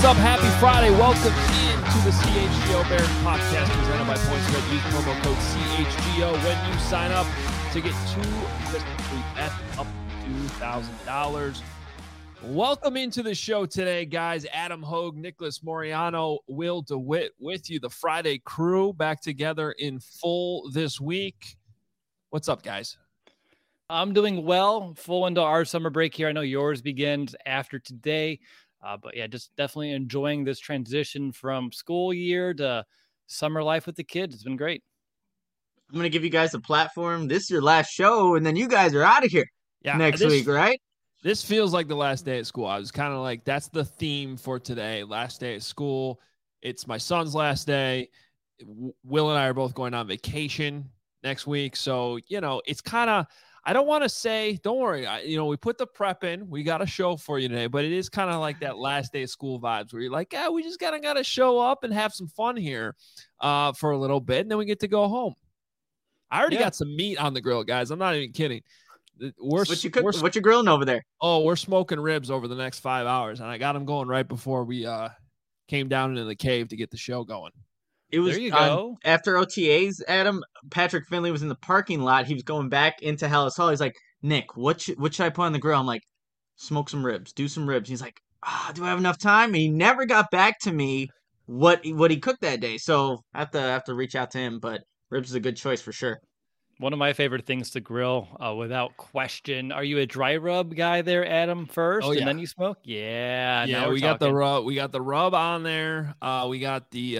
up? Happy Friday. Welcome into the CHGO Bears podcast presented by PointsBet. Use promo code CHGO when you sign up to get $2 bets up to $2,000. Welcome into the show today, guys. Adam Hogue, Nicholas Moriano, Will DeWitt with you. The Friday crew back together in full this week. What's up, guys? I'm doing well. Full into our summer break here. I know yours begins after today. But yeah, just definitely enjoying this transition from school year to summer life with the kids. It's been great. I'm going to give you guys a platform. This is your last show, and then you guys are out of here next week, right? This feels like the last day at school. I was kind of like, that's the theme for today. Last day at school. It's my son's last day. Will and I are both going on vacation next week. So, it's kind of, I don't want to say, don't worry. We put the prep in. We got a show for you today, but it is kind of like that last day of school vibes where you're like, we just got to show up and have some fun here for a little bit, and then we get to go home. I already got some meat on the grill, guys. I'm not even kidding. What you grilling over there? Oh, we're smoking ribs over the next 5 hours, and I got them going right before we came down into the cave to get the show going. It was there you go. After OTAs, Adam, Patrick Finley was in the parking lot. He was going back into Hallis Hall. He's like, Nick, what should I put on the grill? I'm like, smoke some ribs, do some ribs. He's like, do I have enough time? And he never got back to me what he cooked that day. So I have to reach out to him, but ribs is a good choice for sure. One of my favorite things to grill, without question. Are you a dry rub guy there, Adam, first, and then you smoke? Yeah. Yeah, we got the rub. We got the rub on there. We got the,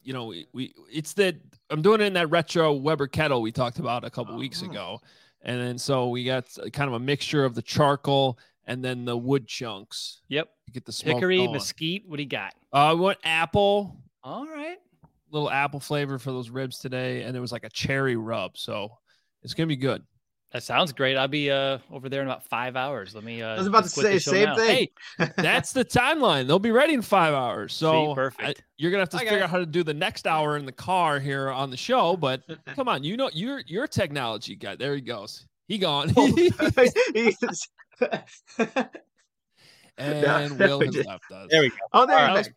I'm doing it in that retro Weber kettle we talked about a couple weeks ago. And then so we got kind of a mixture of the charcoal and then the wood chunks. Yep. You get the smoke hickory, going. mesquite. What do you got? We went apple. All right. Little apple flavor for those ribs today, and there was like a cherry rub, so it's gonna be good. That sounds great. I'll be over there in about 5 hours. Let me. I was about to say the same thing. Hey, that's the timeline. They'll be ready in 5 hours. So see, perfect. You're gonna have to figure out how to do the next hour in the car here on the show. But come on, you're a technology guy. There he goes. He gone. And Will has left us. There we go. Oh, there you go.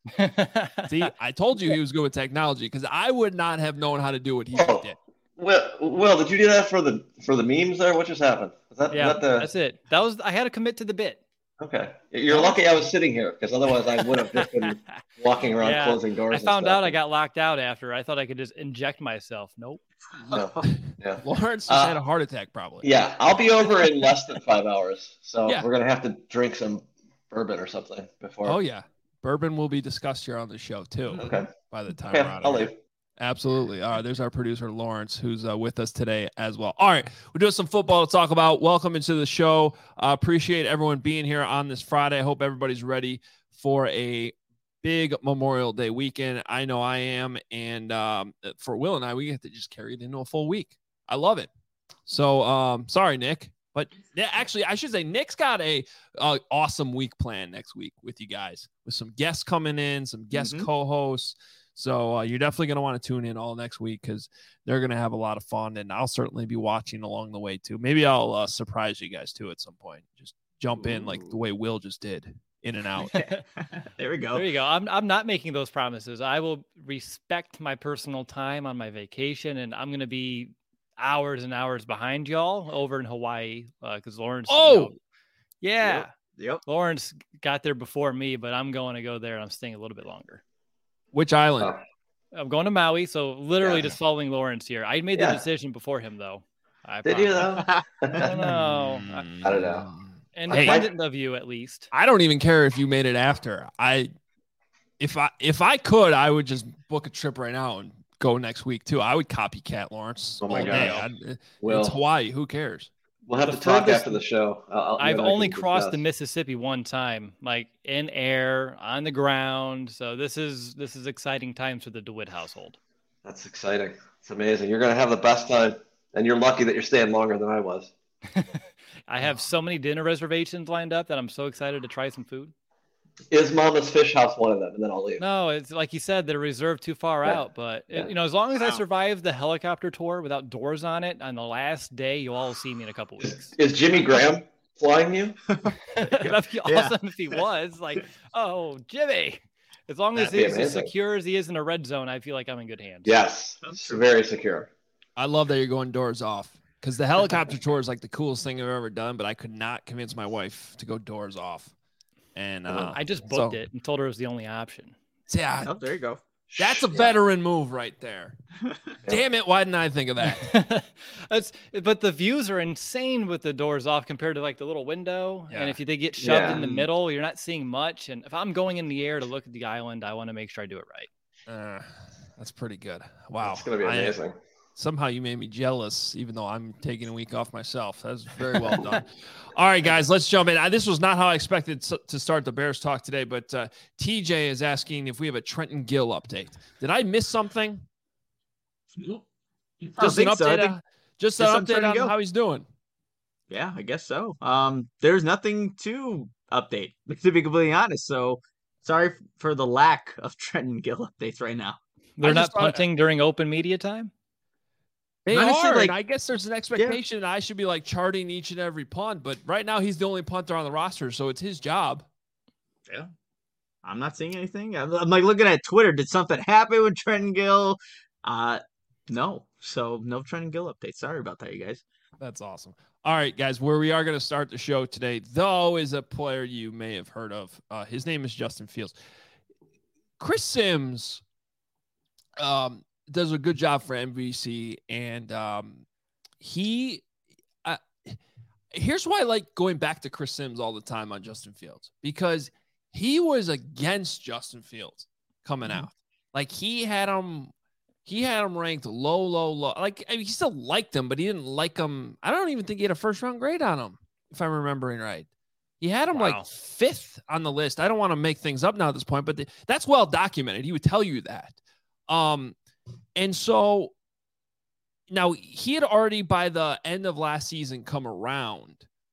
See, I told you he was good with technology because I would not have known how to do what he did. Will, did you do that for the memes there? What just happened? That's it. I had to commit to the bit. Okay. You're lucky I was sitting here because otherwise I would have just been walking around closing doors. I found out I got locked out after. I thought I could just inject myself. Nope. No. Yeah. Lawrence just had a heart attack probably. Yeah, I'll be over in less than 5 hours. So we're going to have to drink some bourbon or something before. Oh, yeah. Bourbon will be discussed here on the show, too. Okay. By the time we're out of here. Absolutely. All right. There's our producer, Lawrence, who's with us today as well. All right. We're doing some football to talk about. Welcome into the show. Appreciate everyone being here on this Friday. I hope everybody's ready for a big Memorial Day weekend. I know I am. And for Will and I, we get to just carry it into a full week. I love it. So sorry, Nick. But actually, I should say Nick's got a awesome week planned next week with you guys, with some guests coming in, some guest co-hosts. So you're definitely going to want to tune in all next week because they're going to have a lot of fun, and I'll certainly be watching along the way too. Maybe I'll surprise you guys too at some point. Just jump in like the way Will just did, in and out. There we go. There you go. I'm not making those promises. I will respect my personal time on my vacation, and I'm going to be hours and hours behind y'all over in Hawaii because Lawrence. Yep. Lawrence got there before me, but I'm going to go there and I'm staying a little bit longer. Which island? I'm going to Maui, so literally just following Lawrence here. I made the decision before him, though. Did you though? I don't know. I don't know. Independent of you, at least. I don't even care if you made it after. If I could, I would just book a trip right now and go next week too. I would copycat Lawrence. Oh my God. It's Hawaii. Who cares? We'll have to talk after the show. I've only crossed the Mississippi one time, like in air, on the ground. So this is exciting times for the DeWitt household. That's exciting. It's amazing. You're going to have the best time, and you're lucky that you're staying longer than I was. I have so many dinner reservations lined up that I'm so excited to try some food. Is Mama's Fish House one of them? And then I'll leave. No, it's like you said, they're reserved too far out. But, as long as I survive the helicopter tour without doors on it on the last day, you'll all see me in a couple weeks. Is Jimmy Graham flying you? That'd be awesome if he was. Like, oh, Jimmy. As long as he's as secure as he is in a red zone, I feel like I'm in good hands. Yes, it's very secure. I love that you're going doors off, because the helicopter tour is like the coolest thing I've ever done, but I could not convince my wife to go doors off. And I just booked it and told her it was the only option. Yeah. Oh, there you go. That's a veteran move right there. Damn it. Why didn't I think of that? But the views are insane with the doors off compared to like the little window. Yeah. And if they get shoved in the middle, you're not seeing much. And if I'm going in the air to look at the island, I want to make sure I do it right. That's pretty good. Wow. It's going to be amazing. Somehow you made me jealous, even though I'm taking a week off myself. That's very well done. All right, guys, let's jump in. This was not how I expected to start the Bears talk today, but TJ is asking if we have a Trenton Gill update. Did I miss something? Just an update. Just an update on how he's doing. Yeah, I guess so. There's nothing to update, to be completely honest. So sorry for the lack of Trenton Gill updates right now. They're not punting during open media time? They honestly, are, and I guess there's an expectation that I should be like charting each and every punt, but right now he's the only punter on the roster, so it's his job. Yeah. I'm not seeing anything. I'm like looking at Twitter. Did something happen with Trenton Gill? No. So no Trenton Gill update. Sorry about that, you guys. That's awesome. All right, guys, where we are going to start the show today, though, is a player you may have heard of. His name is Justin Fields. Chris Sims does a good job for NBC, and here's why I like going back to Chris Sims all the time on Justin Fields, because he was against Justin Fields coming out. Like he had him ranked low. Like, I mean, he still liked him, but he didn't like him. I don't even think he had a first round grade on him, if I'm remembering right. He had him like 5th on the list. I don't want to make things up now at this point, but that's well documented. He would tell you that. And so now he had already by the end of last season come around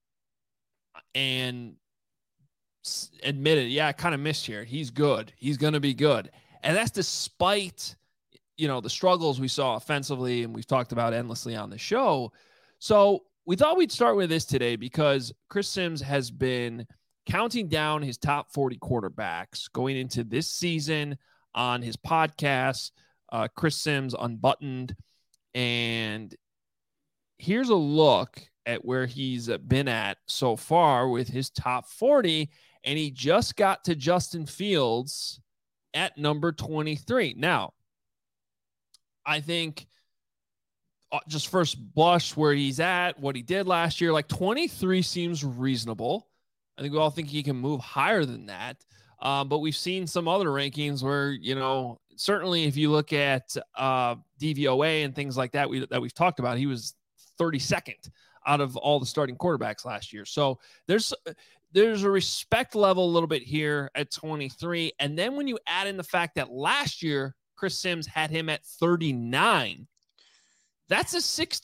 and admitted, yeah, I kind of missed here. He's good. He's going to be good. And that's despite, the struggles we saw offensively, and we've talked about endlessly on the show. So we thought we'd start with this today because Chris Sims has been counting down his top 40 quarterbacks going into this season on his podcast, Chris Sims Unbuttoned. And here's a look at where he's been at so far with his top 40. And he just got to Justin Fields at number 23. Now, I think just first blush where he's at, what he did last year, like 23 seems reasonable. I think we all think he can move higher than that. But we've seen some other rankings where, certainly if you look at DVOA and things like that, we've talked about, he was 32nd out of all the starting quarterbacks last year. So there's a respect level a little bit here at 23. And then when you add in the fact that last year, Chris Sims had him at 39, that's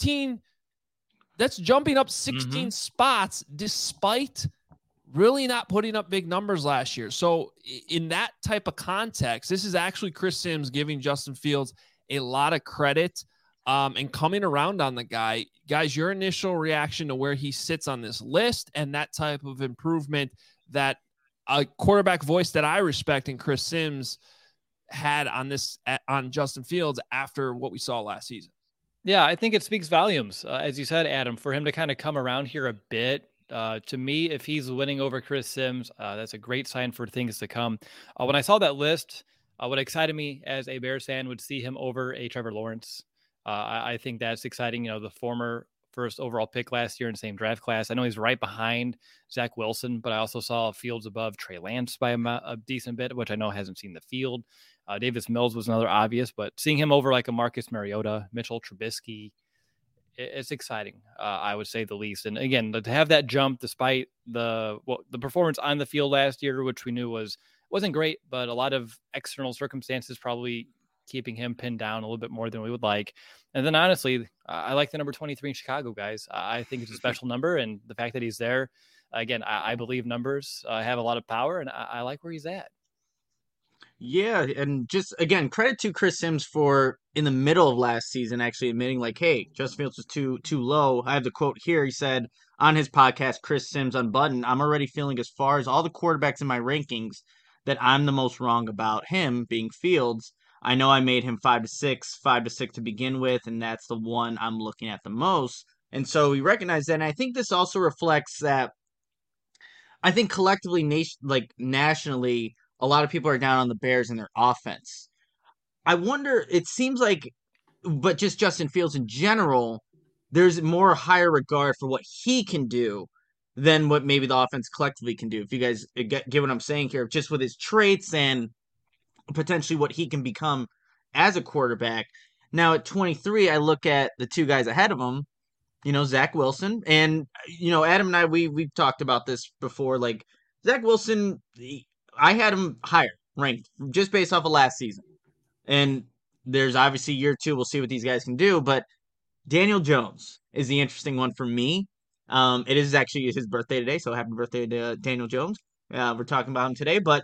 jumping up 16 spots despite really not putting up big numbers last year. So in that type of context, this is actually Chris Sims giving Justin Fields a lot of credit and coming around on the guy. Guys, your initial reaction to where he sits on this list and that type of improvement that a quarterback voice that I respect in Chris Sims had on Justin Fields after what we saw last season. Yeah, I think it speaks volumes, as you said, Adam, for him to kind of come around here a bit. To me, if he's winning over Chris Sims, that's a great sign for things to come. When I saw that list, what excited me as a Bears fan would see him over a Trevor Lawrence. I think that's exciting. The former first overall pick last year in the same draft class. I know he's right behind Zach Wilson, but I also saw Fields above Trey Lance by a decent bit, which I know hasn't seen the field. Davis Mills was another obvious, but seeing him over like a Marcus Mariota, Mitchell Trubisky, it's exciting, I would say the least. And again, to have that jump despite the performance on the field last year, which we knew wasn't great, but a lot of external circumstances probably keeping him pinned down a little bit more than we would like. And then honestly, I like the number 23 in Chicago, guys. I think it's a special number, and the fact that he's there, again, I believe numbers have a lot of power, and I like where he's at. Yeah, and just again, credit to Chris Sims for in the middle of last season actually admitting like, hey, Justin Fields was too low. I have the quote here. He said on his podcast, Chris Sims Unbuttoned, I'm already feeling as far as all the quarterbacks in my rankings that I'm the most wrong about him being Fields. I know I made him 5 to 6 to begin with, and that's the one I'm looking at the most. And so we recognize that. And I think this also reflects that I think collectively, nationally, a lot of people are down on the Bears and their offense. I wonder. It seems like, but just Justin Fields in general, there's more higher regard for what he can do than what maybe the offense collectively can do. If you guys get what I'm saying here, just with his traits and potentially what he can become as a quarterback. Now at 23, I look at the two guys ahead of him, Zach Wilson. And, Adam and I, we've talked about this before. Like, Zach Wilson, I had him higher ranked just based off of last season. And there's obviously year two. We'll see what these guys can do. But Daniel Jones is the interesting one for me. It is actually his birthday today, so happy birthday to Daniel Jones. We're talking about him today, but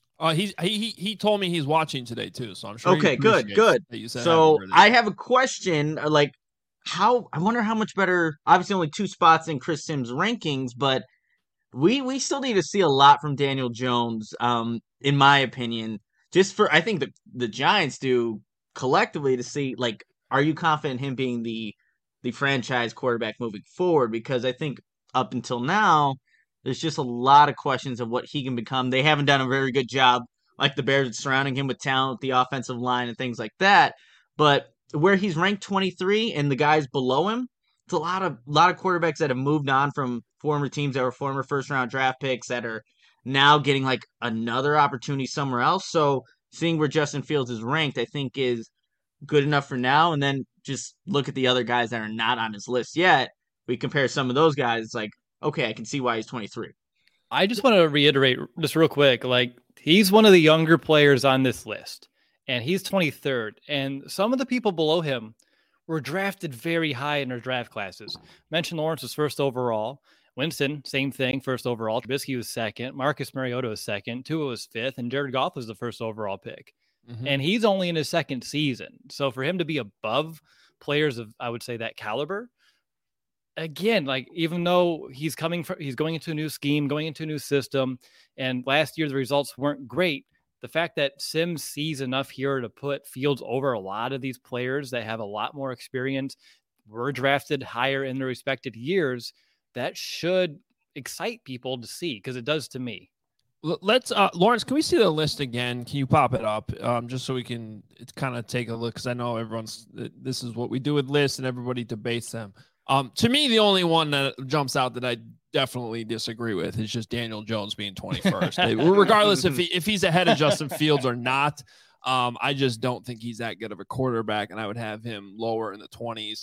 he told me he's watching today too, so I'm sure. Okay, good. So I have a question, like I wonder how much better. Obviously, only 2 spots in Chris Sims' rankings, but we still need to see a lot from Daniel Jones. In my opinion, I think the Giants do collectively to see, like, are you confident in him being the franchise quarterback moving forward? Because I think up until now, there's just a lot of questions of what he can become. They haven't done a very good job, like the Bears, surrounding him with talent, the offensive line, and things like that. But where he's ranked 23 and the guys below him, it's a lot of quarterbacks that have moved on from former teams that were former first-round draft picks that are now getting like another opportunity somewhere else. So seeing where Justin Fields is ranked, I think is good enough for now. And then just look at the other guys that are not on his list yet. We compare some of those guys, it's like, okay, I can see why he's 23. I just want to reiterate just real quick, like, he's one of the younger players on this list, and he's 23rd. And some of the people below him were drafted very high in their draft classes. Mentioned Lawrence was first overall. Winston, same thing, first overall. Trubisky was second. Marcus Mariota was second. Tua was fifth. And Jared Goff was the first overall pick. Mm-hmm. And he's only in his second season. So for him to be above players of, I would say, that caliber, again, like, even though he's going into a new scheme, going into a new system, and last year the results weren't great, the fact that Sims sees enough here to put Fields over a lot of these players that have a lot more experience, were drafted higher in their respected years, that should excite people to see, because it does to me. Let's Lawrence, can we see the list again? Can you pop it up just so we can kind of take a look? Because I know this is what we do with lists and everybody debates them. To me, the only one that jumps out that I definitely disagree with is just Daniel Jones being 21st. Regardless if he's ahead of Justin Fields or not, I just don't think he's that good of a quarterback, and I would have him lower in the 20s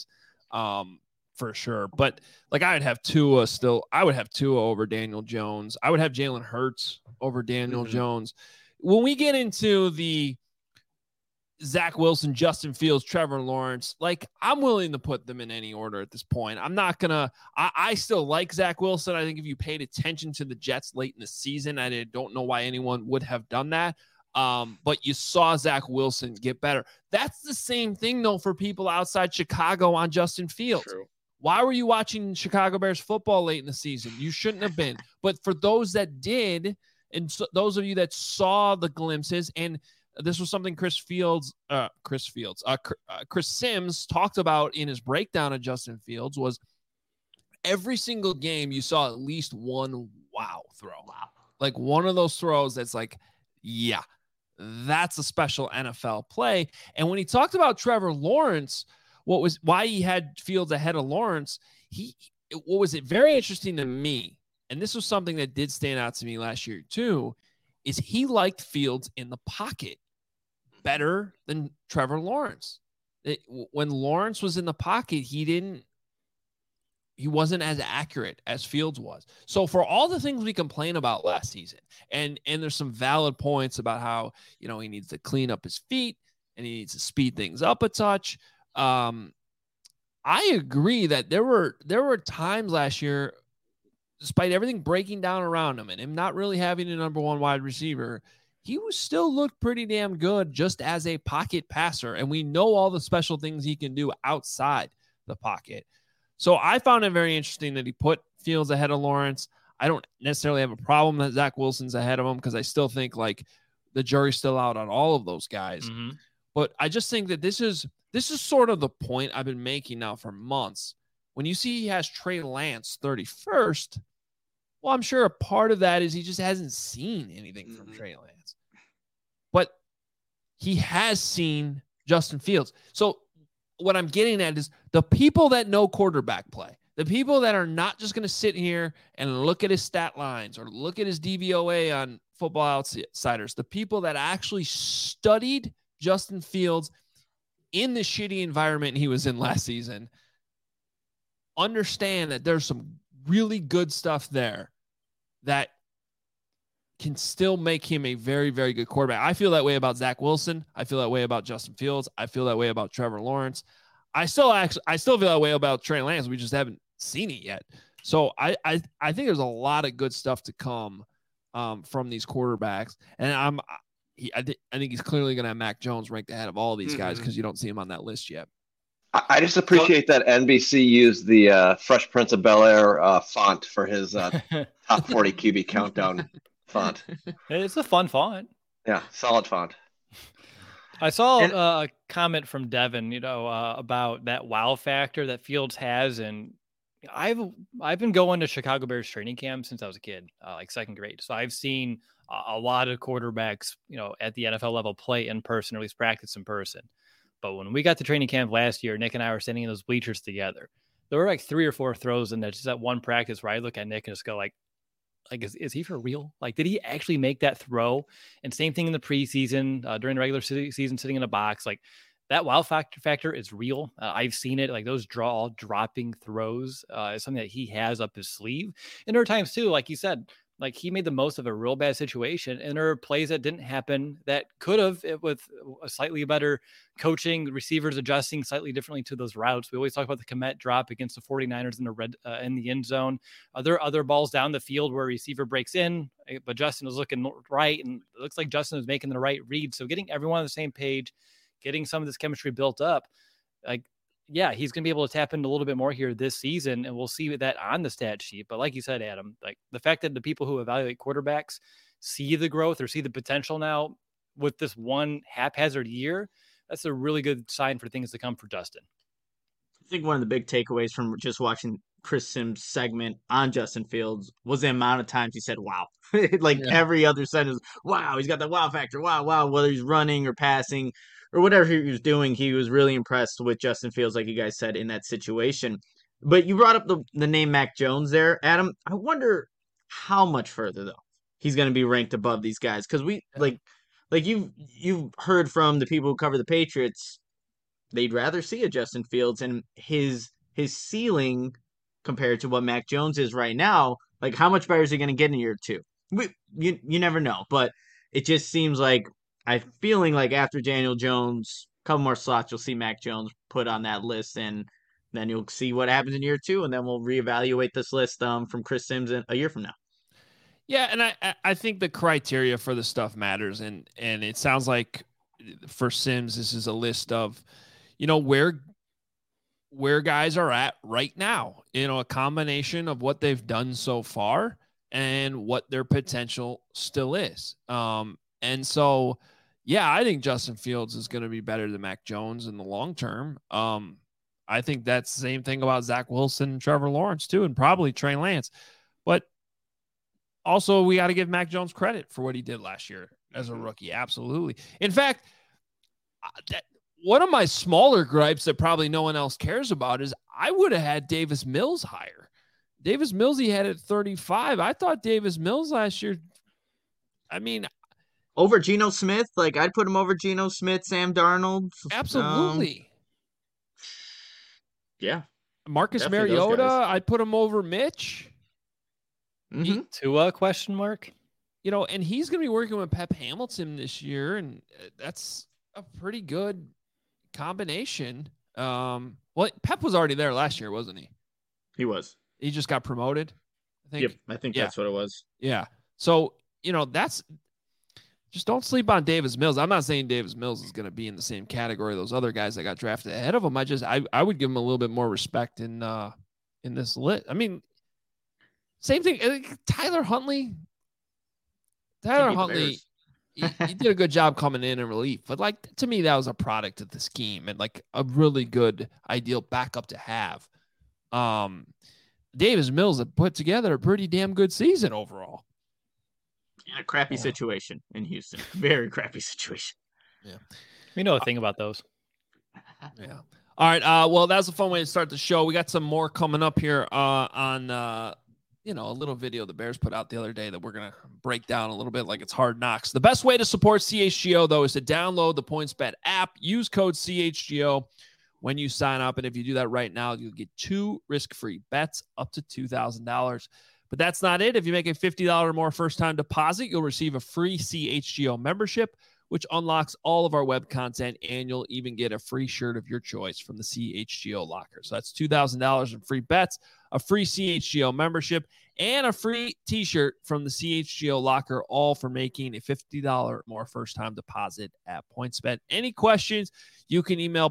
for sure. But like, I would have Tua over Daniel Jones. I would have Jalen Hurts over Daniel Jones. When we get into the Zach Wilson, Justin Fields, Trevor Lawrence, like, I'm willing to put them in any order at this point. I'm not gonna. I still like Zach Wilson. I think if you paid attention to the Jets late in the season, I don't know why anyone would have done that. But you saw Zach Wilson get better. That's the same thing though for people outside Chicago on Justin Fields. True. Why were you watching Chicago Bears football late in the season? You shouldn't have been. But for those that did, and those of you that saw the glimpses, and this was something Chris Sims talked about in his breakdown of Justin Fields, was every single game you saw at least one wow throw. Wow. Like, one of those throws that's like, yeah, that's a special NFL play. And when he talked about Trevor Lawrence, why he had Fields ahead of Lawrence, what was it very interesting to me, and this was something that did stand out to me last year too, is he liked Fields in the pocket better than Trevor Lawrence. When Lawrence was in the pocket, he wasn't as accurate as Fields was. So for all the things we complain about last season, and there's some valid points about how, he needs to clean up his feet and he needs to speed things up a touch. I agree that there were times last year, despite everything breaking down around him and him not really having a number one wide receiver, he was still looked pretty damn good just as a pocket passer. And we know all the special things he can do outside the pocket. So I found it very interesting that he put Fields ahead of Lawrence. I don't necessarily have a problem that Zach Wilson's ahead of him because I still think like the jury's still out on all of those guys. Mm-hmm. But I just think that this is sort of the point I've been making now for months. When you see he has Trey Lance 31st, well, I'm sure a part of that is he just hasn't seen anything from Trey Lance. But he has seen Justin Fields. So what I'm getting at is the people that know quarterback play, the people that are not just going to sit here and look at his stat lines or look at his DVOA on Football Outsiders, the people that actually studied Justin Fields in the shitty environment he was in last season, understand that there's some really good stuff there that can still make him a very, very good quarterback. I feel that way about Zach Wilson. I feel that way about Justin Fields. I feel that way about Trevor Lawrence. I still feel that way about Trey Lance. We just haven't seen it yet. So I think there's a lot of good stuff to come from these quarterbacks. And I think he's clearly going to have Mac Jones ranked ahead of all these guys because you don't see him on that list yet. I just appreciate that NBC used the Fresh Prince of Bel-Air font for his top 40 QB countdown font. It's a fun font. Yeah, solid font. I saw a comment from Devin, about that wow factor that Fields has, and I've been going to Chicago Bears training camp since I was a kid, like second grade. So I've seen a lot of quarterbacks, at the NFL level play in person, or at least practice in person. But when we got to training camp last year, Nick and I were standing in those bleachers together. There were like 3 or 4 throws in there, just that one practice where I look at Nick and just go like, is he for real? Like, did he actually make that throw? And same thing in the preseason, during the regular season, sitting in a box. Like, that wow factor is real. I've seen it. Like, those dropping throws is something that he has up his sleeve. And there are times too, like you said, like he made the most of a real bad situation, and there are plays that didn't happen that could have, with a slightly better coaching, receivers adjusting slightly differently to those routes. We always talk about the Kmet drop against the 49ers in the end zone. There are other balls down the field where a receiver breaks in, but Justin was looking right, and it looks like Justin was making the right read. So getting everyone on the same page, getting some of this chemistry built up, like, yeah, he's going to be able to tap into a little bit more here this season, and we'll see that on the stat sheet. But like you said, Adam, like the fact that the people who evaluate quarterbacks see the growth or see the potential now with this one haphazard year, that's a really good sign for things to come for Justin. I think one of the big takeaways from just watching Chris Sims' segment on Justin Fields was the amount of times he said, wow. Every other sentence, wow, he's got the wow factor, wow, whether he's running or passing or whatever he was doing, he was really impressed with Justin Fields, like you guys said, in that situation. But you brought up the name Mac Jones there, Adam. I wonder how much further, though, he's going to be ranked above these guys. Because you've heard from the people who cover the Patriots, they'd rather see a Justin Fields, and his ceiling compared to what Mac Jones is right now, like how much better is he going to get in year 2? You never know, but it just seems like I'm feeling like after Daniel Jones, a couple more slots, you'll see Mac Jones put on that list, and then you'll see what happens in year 2, and then we'll reevaluate this list from Chris Sims a year from now. Yeah, and I think the criteria for the stuff matters, and it sounds like for Sims, this is a list of, where guys are at right now, a combination of what they've done so far and what their potential still is. And so, yeah, I think Justin Fields is going to be better than Mac Jones in the long term. I think that's the same thing about Zach Wilson and Trevor Lawrence too, and probably Trey Lance. But also, we got to give Mac Jones credit for what he did last year as a rookie. Absolutely. In fact, one of my smaller gripes that probably no one else cares about is I would have had Davis Mills higher. Davis Mills, he had at 35. I thought Davis Mills last year, over Geno Smith? Like, I'd put him over Geno Smith, Sam Darnold. Absolutely. Yeah. Marcus Mariota, I'd put him over Mitch. Mm-hmm. Tua, question mark? And he's going to be working with Pep Hamilton this year, and that's a pretty good combination. Pep was already there last year, wasn't he? He was. He just got promoted, I think. Yep, I think that's what it was. Yeah. So, just don't sleep on Davis Mills. I'm not saying Davis Mills is going to be in the same category of those other guys that got drafted ahead of him. I would give him a little bit more respect in this list. I mean, same thing. Tyler Huntley. He did a good job coming in relief, but like to me, that was a product of the scheme and like a really good ideal backup to have. Davis Mills had put together a pretty damn good season overall. A crappy situation in Houston. Very crappy situation. Yeah. We know a thing about those. Yeah. All right. Well, that's a fun way to start the show. We got some more coming up here on a little video the Bears put out the other day that we're going to break down a little bit like it's Hard Knocks. The best way to support CHGO, though, is to download the PointsBet app. Use code CHGO when you sign up. And if you do that right now, you'll get 2 risk-free bets up to $2,000. But that's not it. If you make a $50 or more first-time deposit, you'll receive a free CHGO membership, which unlocks all of our web content, and you'll even get a free shirt of your choice from the CHGO locker. So that's $2,000 in free bets, a free CHGO membership, and a free t-shirt from the CHGO locker, all for making a $50 or more first-time deposit at PointsBet. Any questions, you can email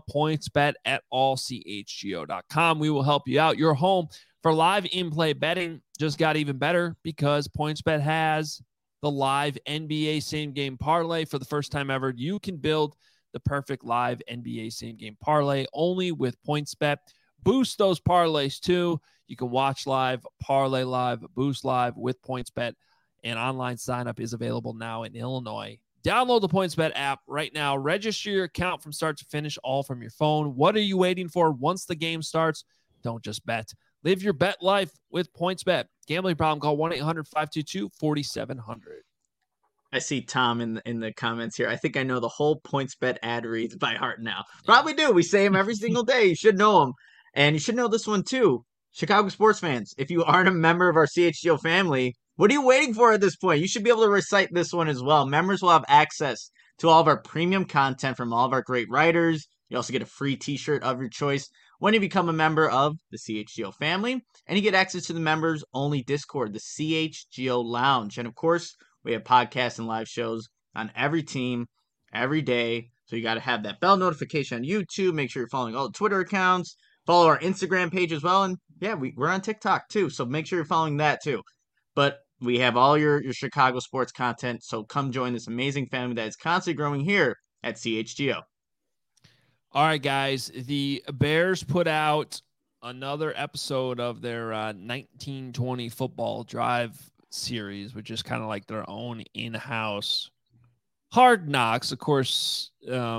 pointsbet@allchgo.com. We will help you out. Your home for live in-play betting just got even better because PointsBet has the live NBA same-game parlay. For the first time ever, you can build the perfect live NBA same-game parlay only with PointsBet. Boost those parlays too. You can watch live, parlay live, boost live with PointsBet, and online sign-up is available now in Illinois. Download the PointsBet app right now. Register your account from start to finish, all from your phone. What are you waiting for? Once the game starts, don't just bet. Live your bet life with PointsBet. Gambling problem, call 1-800-522-4700. I see Tom in the comments here. I think I know the whole PointsBet ad reads by heart now. Probably do. We say them every single day. You should know them. And you should know this one too. Chicago sports fans, if you aren't a member of our CHGO family, what are you waiting for at this point? You should be able to recite this one as well. Members will have access to all of our premium content from all of our great writers. You also get a free t-shirt of your choice when you become a member of the CHGO family. And you get access to the members-only Discord, the CHGO Lounge. And of course, we have podcasts and live shows on every team, every day. So you got to have that bell notification on YouTube. Make sure you're following all the Twitter accounts. Follow our Instagram page as well. And yeah, we're on TikTok too. So make sure you're following that too. But we have all your Chicago sports content. So come join this amazing family that is constantly growing here at CHGO. All right, guys. The Bears put out another episode of their 1920 football drive series, which is kind of like their own in-house Hard Knocks. Of course,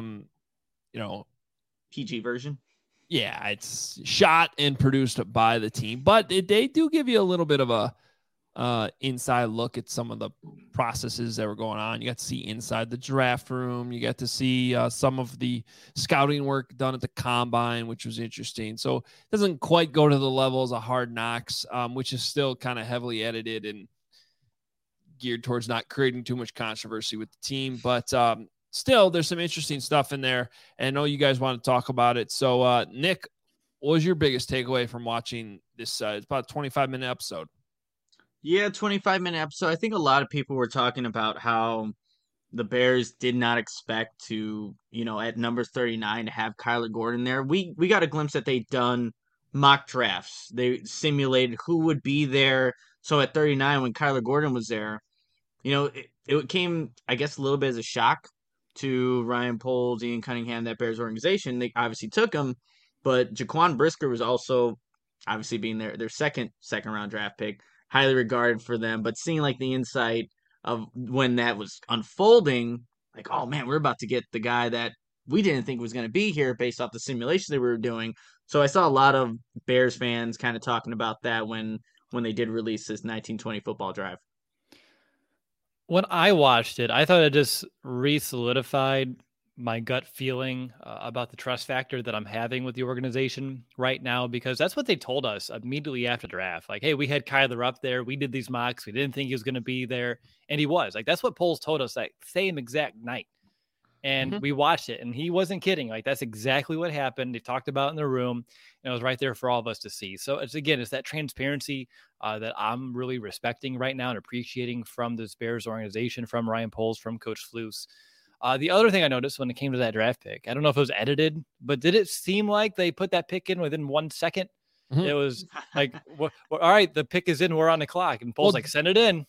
PG version. Yeah, it's shot and produced by the team, but they do give you a little bit of a inside look at some of the processes that were going on. You got to see inside the draft room. You got to see some of the scouting work done at the combine, which was interesting. So it doesn't quite go to the levels of Hard Knocks, which is still kind of heavily edited and geared towards not creating too much controversy with the team. But still, there's some interesting stuff in there, and I know you guys want to talk about it. So, Nick, what was your biggest takeaway from watching this? It's about a 25-minute episode. Yeah, 25-minute episode. I think a lot of people were talking about how the Bears did not expect to, at number 39 to have Kyler Gordon there. We got a glimpse that they'd done mock drafts. They simulated who would be there. So at 39, when Kyler Gordon was there, it came, I guess, a little bit as a shock to Ryan Poles, Ian Cunningham, that Bears organization. They obviously took him, but Jaquan Brisker was also obviously being their second round draft pick, highly regarded for them. But seeing like the insight of when that was unfolding, like, oh man, we're about to get the guy that we didn't think was going to be here based off the simulation that we were doing. So I saw a lot of Bears fans kind of talking about that when they did release this 1920 football drive. When I watched it, I thought it just re-solidified my gut feeling about the trust factor that I'm having with the organization right now, because that's what they told us immediately after the draft. Like, hey, we had Kyler up there. We did these mocks. We didn't think he was going to be there. And he was. Like, that's what Poles told us that same exact night. And we watched it, and he wasn't kidding. Like, that's exactly what happened. They talked about it in the room, and it was right there for all of us to see. So it's that transparency that I'm really respecting right now and appreciating from this Bears organization, from Ryan Poles, from Coach Flus. The other thing I noticed when it came to that draft pick, I don't know if it was edited, but did it seem like they put that pick in within 1 second? It was like, all right, the pick is in. We're on the clock. And Poles send it in.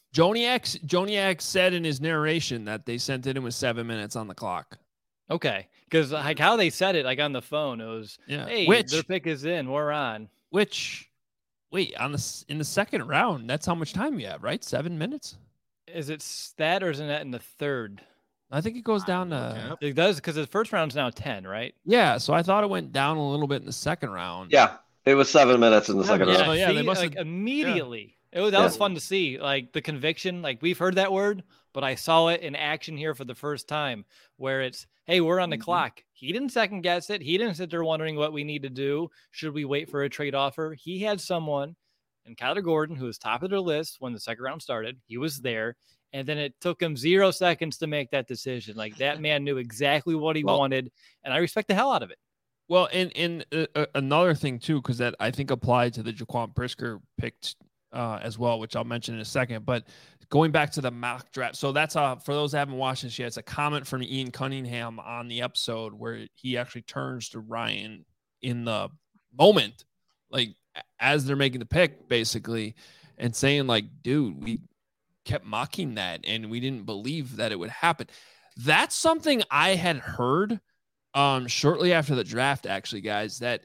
Joniak said in his narration that they sent it in with 7 minutes on the clock. Okay. Because like how they said it, like on the phone, it was, hey, their pick is in. We're on. Wait, in the second round, that's how much time you have, right? 7 minutes? Is it that or is it in the third? I think it goes down to... It does, because the first round's now 10, right? Yeah, so I thought it went down a little bit in the second round. Yeah. It was 7 minutes in the second round. Yeah, they must immediately. Yeah. That was fun to see. Like the conviction, like we've heard that word, but I saw it in action here for the first time where it's, hey, we're on the clock. He didn't second guess it. He didn't sit there wondering what we need to do. Should we wait for a trade offer? He had someone, and Kyler Gordon, who was top of their list when the second round started. He was there. And then it took him 0 seconds to make that decision. Like that man knew exactly what he wanted. And I respect the hell out of it. Well, and another thing, too, because that I think applied to the Jaquan Brisker pick as well, which I'll mention in a second. But going back to the mock draft. So that's for those that haven't watched this yet, it's a comment from Ian Cunningham on the episode where he actually turns to Ryan in the moment, like as they're making the pick, basically, and saying, like, dude, we kept mocking that and we didn't believe that it would happen. That's something I had heard shortly after the draft, actually, guys, that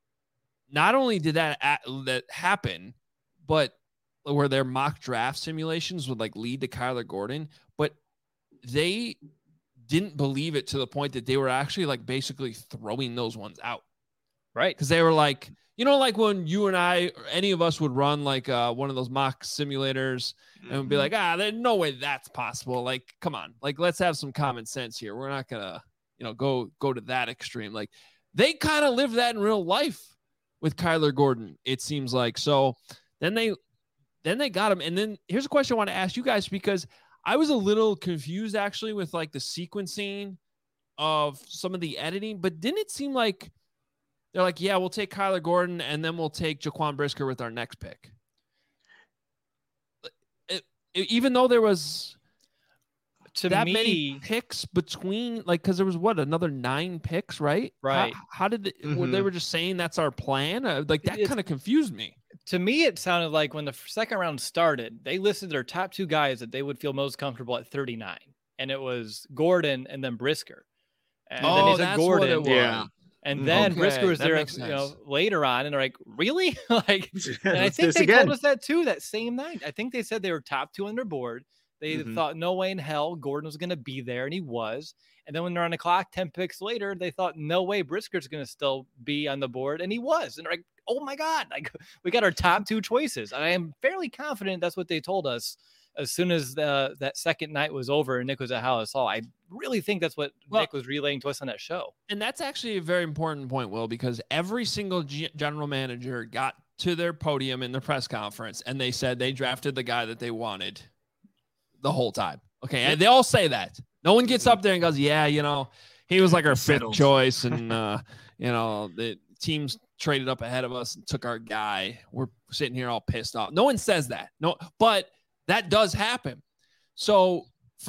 not only did that happen, but where their mock draft simulations would like lead to Kyler Gordon, but they didn't believe it to the point that they were actually like basically throwing those ones out. Right. Because they were like, like when you and I, or any of us would run like one of those mock simulators and be like, there's no way that's possible. Like, come on, like, let's have some common sense here. We're not going to, go to that extreme. Like they kind of live that in real life with Kyler Gordon, it seems like. So then they got him. And then here's a question I want to ask you guys, because I was a little confused actually with like the sequencing of some of the editing, but didn't it seem like they're like, yeah, we'll take Kyler Gordon and then we'll take Jaquan Brisker with our next pick. Even though there was many picks between, like, because there was another 9 picks, right? Right. How did they were just saying that's our plan? Like that kind of confused me. To me, it sounded like when the second round started, they listed their top 2 guys that they would feel most comfortable at 39, and it was Gordon and then Brisker. And then he said Gordon, what it was. Yeah. And then Brisker was there, later on, and they're like, really? Like, and I think they told us that too that same night. I think they said they were top 2 on their board. They thought no way in hell Gordon was going to be there, and he was. And then when they're on the clock, 10 picks later, they thought no way Brisker's going to still be on the board, and he was. And they're like, oh my God, like we got our top 2 choices. And I am fairly confident that's what they told us as soon as that second night was over and Nick was at Hallis Hall. I really think that's what Nick was relaying to us on that show. And that's actually a very important point, Will, because every single general manager got to their podium in the press conference and they said they drafted the guy that they wanted the whole time. Okay. And they all say that. No one gets up there and goes, yeah, he was like our 5th choice. And, the teams traded up ahead of us and took our guy. We're sitting here all pissed off. No one says that. No, but that does happen. So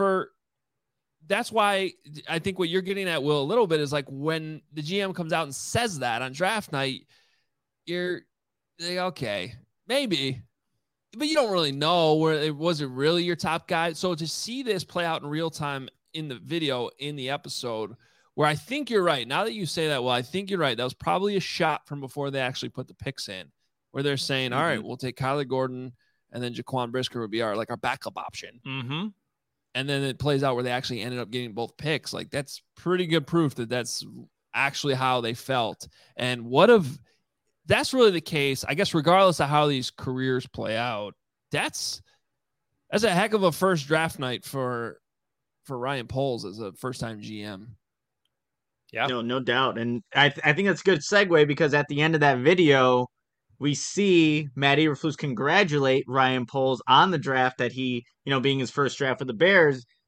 that's why I think what you're getting at, Will, a little bit is like when the GM comes out and says that on draft night, you're like, okay, maybe, but you don't really know where it was it really your top guy. So to see this play out in real time in the video, in the episode, where I think you're right. Now that you say that, well, I think you're right. That was probably a shot from before they actually put the picks in, where they're saying, all right, we'll take Kyler Gordon and then Jaquan Brisker would be our backup option. Mm-hmm. And then it plays out where they actually ended up getting both picks. Like that's pretty good proof that that's actually how they felt. And that's really the case, I guess, regardless of how these careers play out, that's a heck of a first draft night for Ryan Poles as a first-time GM. Yeah, no doubt. And I think that's a good segue because at the end of that video, we see Matt Eberflus congratulate Ryan Poles on the draft that he, being his first draft for the Bears.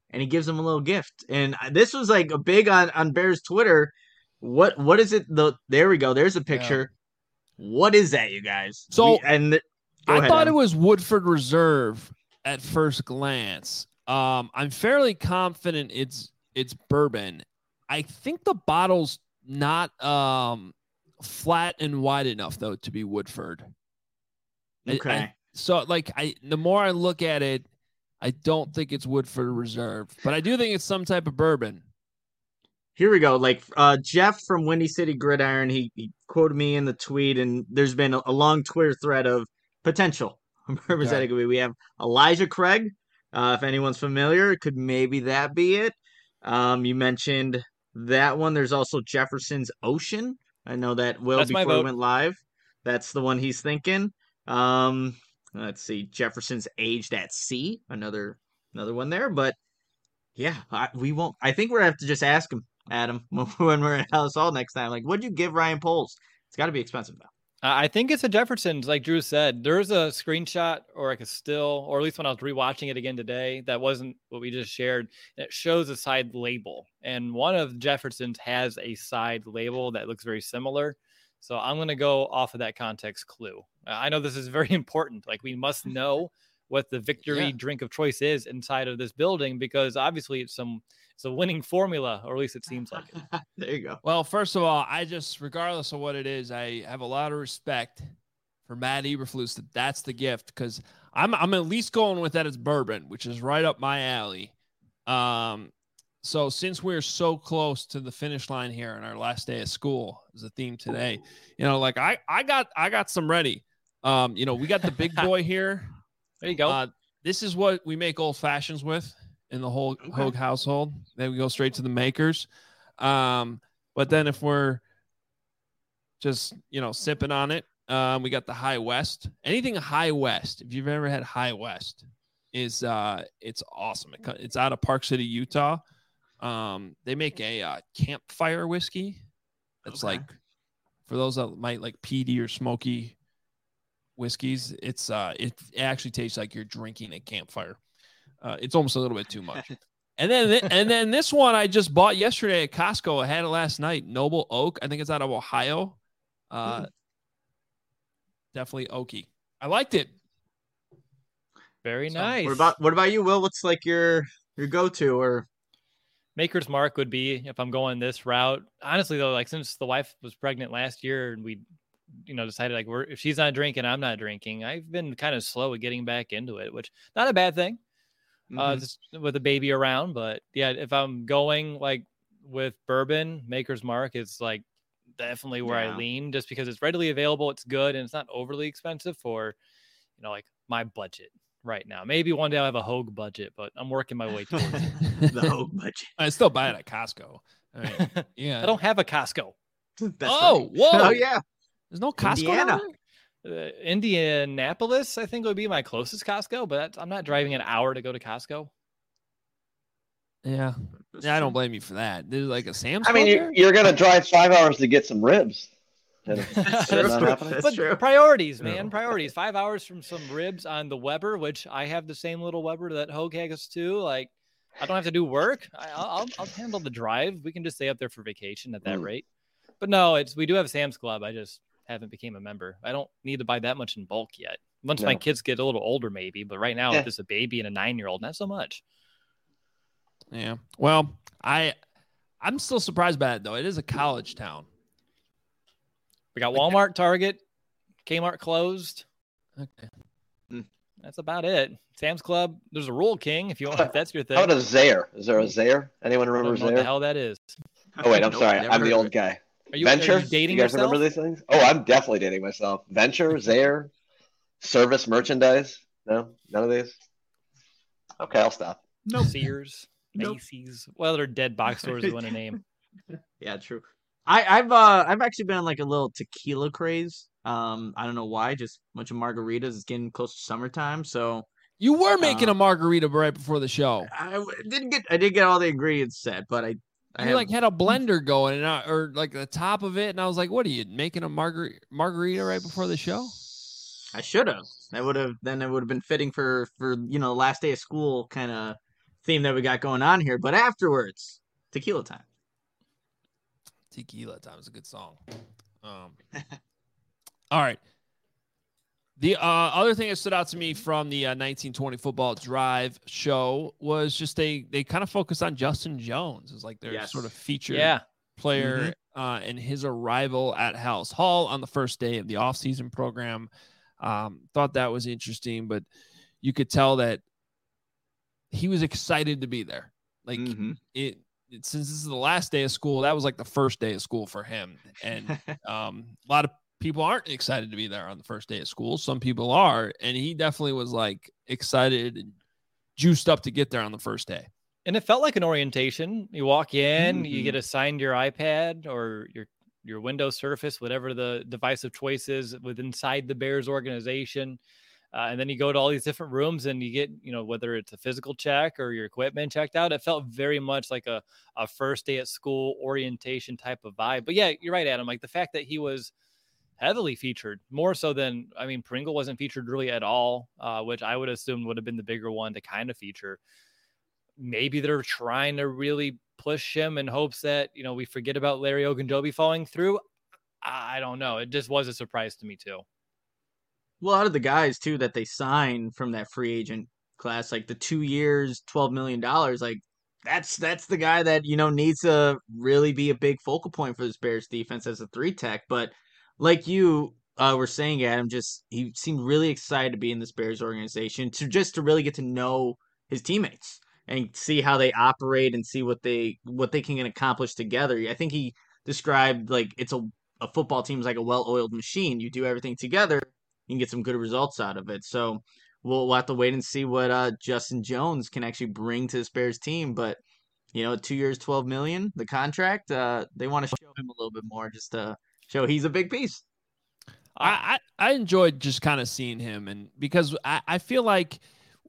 and he gives him a little gift. And this was like a big on Bears Twitter. What is it? There we go. There's a picture. Yeah. What is that, you guys? So I thought it was Woodford Reserve at first glance. I'm fairly confident it's bourbon. I think the bottle's not flat and wide enough though to be Woodford. Okay. So like the more I look at it, I don't think it's Woodford Reserve, but I do think it's some type of bourbon. Here we go. Like Jeff from Windy City Gridiron, he quoted me in the tweet, and there's been a long Twitter thread of potential bourbons that it could be. We have Elijah Craig. If anyone's familiar, could maybe that be it? You mentioned that one. There's also Jefferson's Ocean. I know that before it went live. That's the one he's thinking. Let's see. Jefferson's Aged at Sea. Another one there. But yeah, we won't. I think we're gonna have to just ask him, Adam, when we're at House Hall next time. Like, what'd you give Ryan Poles? It's got to be expensive now. I think it's a Jefferson's, like Drew said. There's a screenshot or like a still, or at least when I was rewatching it again today, that wasn't what we just shared. It shows a side label, and one of Jefferson's has a side label that looks very similar. So I'm going to go off of that context clue. I know this is very important. Like, we must know what the victory drink of choice is inside of this building, because obviously it's a winning formula, or at least it seems like it. There you go. Well, first of all, regardless of what it is, I have a lot of respect for Matt Eberflus that's the gift, because I'm at least going with that as bourbon, which is right up my alley. So since we're so close to the finish line here on our last day of school, is the theme today, like I got some ready. We got the big boy here. There you go. This is what we make old fashions with in the whole Hogue household. Then we go straight to the makers. But then if we're just, sipping on it, we got the High West. Anything High West, if you've ever had High West, is it's awesome. It's out of Park City, Utah. They make a campfire whiskey. That's like, for those that might like peaty or smoky whiskeys, it actually tastes like you're drinking a campfire. It's almost a little bit too much. And then this one I just bought yesterday at Costco. I had it last night. Noble Oak. I think it's out of Ohio. Definitely oaky. I liked it. Very nice. What about you, Will? What's like your go-to? Or Maker's Mark would be if I'm going this route. Honestly, though, like since the wife was pregnant last year and we decided like if she's not drinking, I'm not drinking, I've been kind of slow at getting back into it, which not a bad thing. Just with a baby around. But yeah, if I'm going like with bourbon, Maker's Mark is like definitely where I lean, just because it's readily available, it's good, and it's not overly expensive for like my budget right now. Maybe one day I'll have a Hogue budget, but I'm working my way towards it. The Hogue budget. I still buy it at Costco. I mean, yeah. I don't have a Costco. Whoa. Oh yeah. There's no Costco. Indianapolis, I think, would be my closest Costco, but I'm not driving an hour to go to Costco. Yeah, I don't blame you for that. There's like a Sam's. I mean, you're gonna drive 5 hours to get some ribs. That's true. Priorities, man. Priorities. 5 hours from some ribs on the Weber, which I have the same little Weber that Hogue has too. Like, I don't have to do work. I'll handle the drive. We can just stay up there for vacation at that rate. But no, we do have Sam's Club. I just haven't became a member. I don't need to buy that much in bulk yet. Once my kids get a little older, maybe. But right now, if there's a baby and a 9-year-old, not so much. Yeah. Well, I'm still surprised by it, though. It is a college town. We got Walmart, Target, Kmart closed. Okay. That's about it. Sam's Club. There's a Rural King if that's your thing. How about a Zayre? Is there a Zayre? Anyone remember Zayre? What the hell that is? Oh wait, I'm sorry. I'm the old guy. Venture? Are you dating you guys yourself? Remember these things? Oh, I'm definitely dating myself. Venture, Zayre, Service Merchandise. No, none of these. Okay, I'll stop. No. Sears, Macy's. Well, they're dead box stores. You want to name? Yeah, true. I've actually been on like a little tequila craze. I don't know why. Just a bunch of margaritas. It's getting close to summertime, so you were making a margarita right before the show. I did get all the ingredients set, but I had a blender going or like the top of it, and I was like, "What are you making a margarita right before the show?" I should have. It would have been fitting for the last day of school kind of theme that we got going on here. But afterwards, tequila time. Tequila time is a good song. All right. The other thing that stood out to me from the 1920 Football Drive show was just they kind of focused on Justin Jones as like their sort of featured player and his arrival at Halas Hall on the first day of the offseason program. Thought that was interesting, but you could tell that he was excited to be there. Like it since this is the last day of school, that was like the first day of school for him. And a lot of people aren't excited to be there on the first day of school. Some people are, and he definitely was like excited and juiced up to get there on the first day. And it felt like an orientation. You walk in, you get assigned your iPad or your Windows Surface, whatever the device of choice is inside the Bears organization. And then you go to all these different rooms and you get, whether it's a physical check or your equipment checked out. It felt very much like a first day at school orientation type of vibe. But yeah, you're right, Adam. Like the fact that he was heavily featured, more so than, Pringle wasn't featured really at all, which I would assume would have been the bigger one to kind of feature. Maybe they're trying to really push him in hopes that, we forget about Larry Ogunjobi falling through. I don't know. It just was a surprise to me too. Well, out of the guys too that they signed from that free agent class, like the 2 years, $12 million, like that's the guy that, needs to really be a big focal point for this Bears defense as a 3-tech. But like you were saying, Adam, he seemed really excited to be in this Bears organization to really get to know his teammates and see how they operate and see what they can accomplish together. I think he described like it's a football team is like a well-oiled machine. You do everything together, you can get some good results out of it. So we'll have to wait and see what Justin Jones can actually bring to this Bears team. But 2 years, $12 million, the contract. They want to show him a little bit more, just to show he's a big piece. I enjoyed just kind of seeing him, and because I feel like,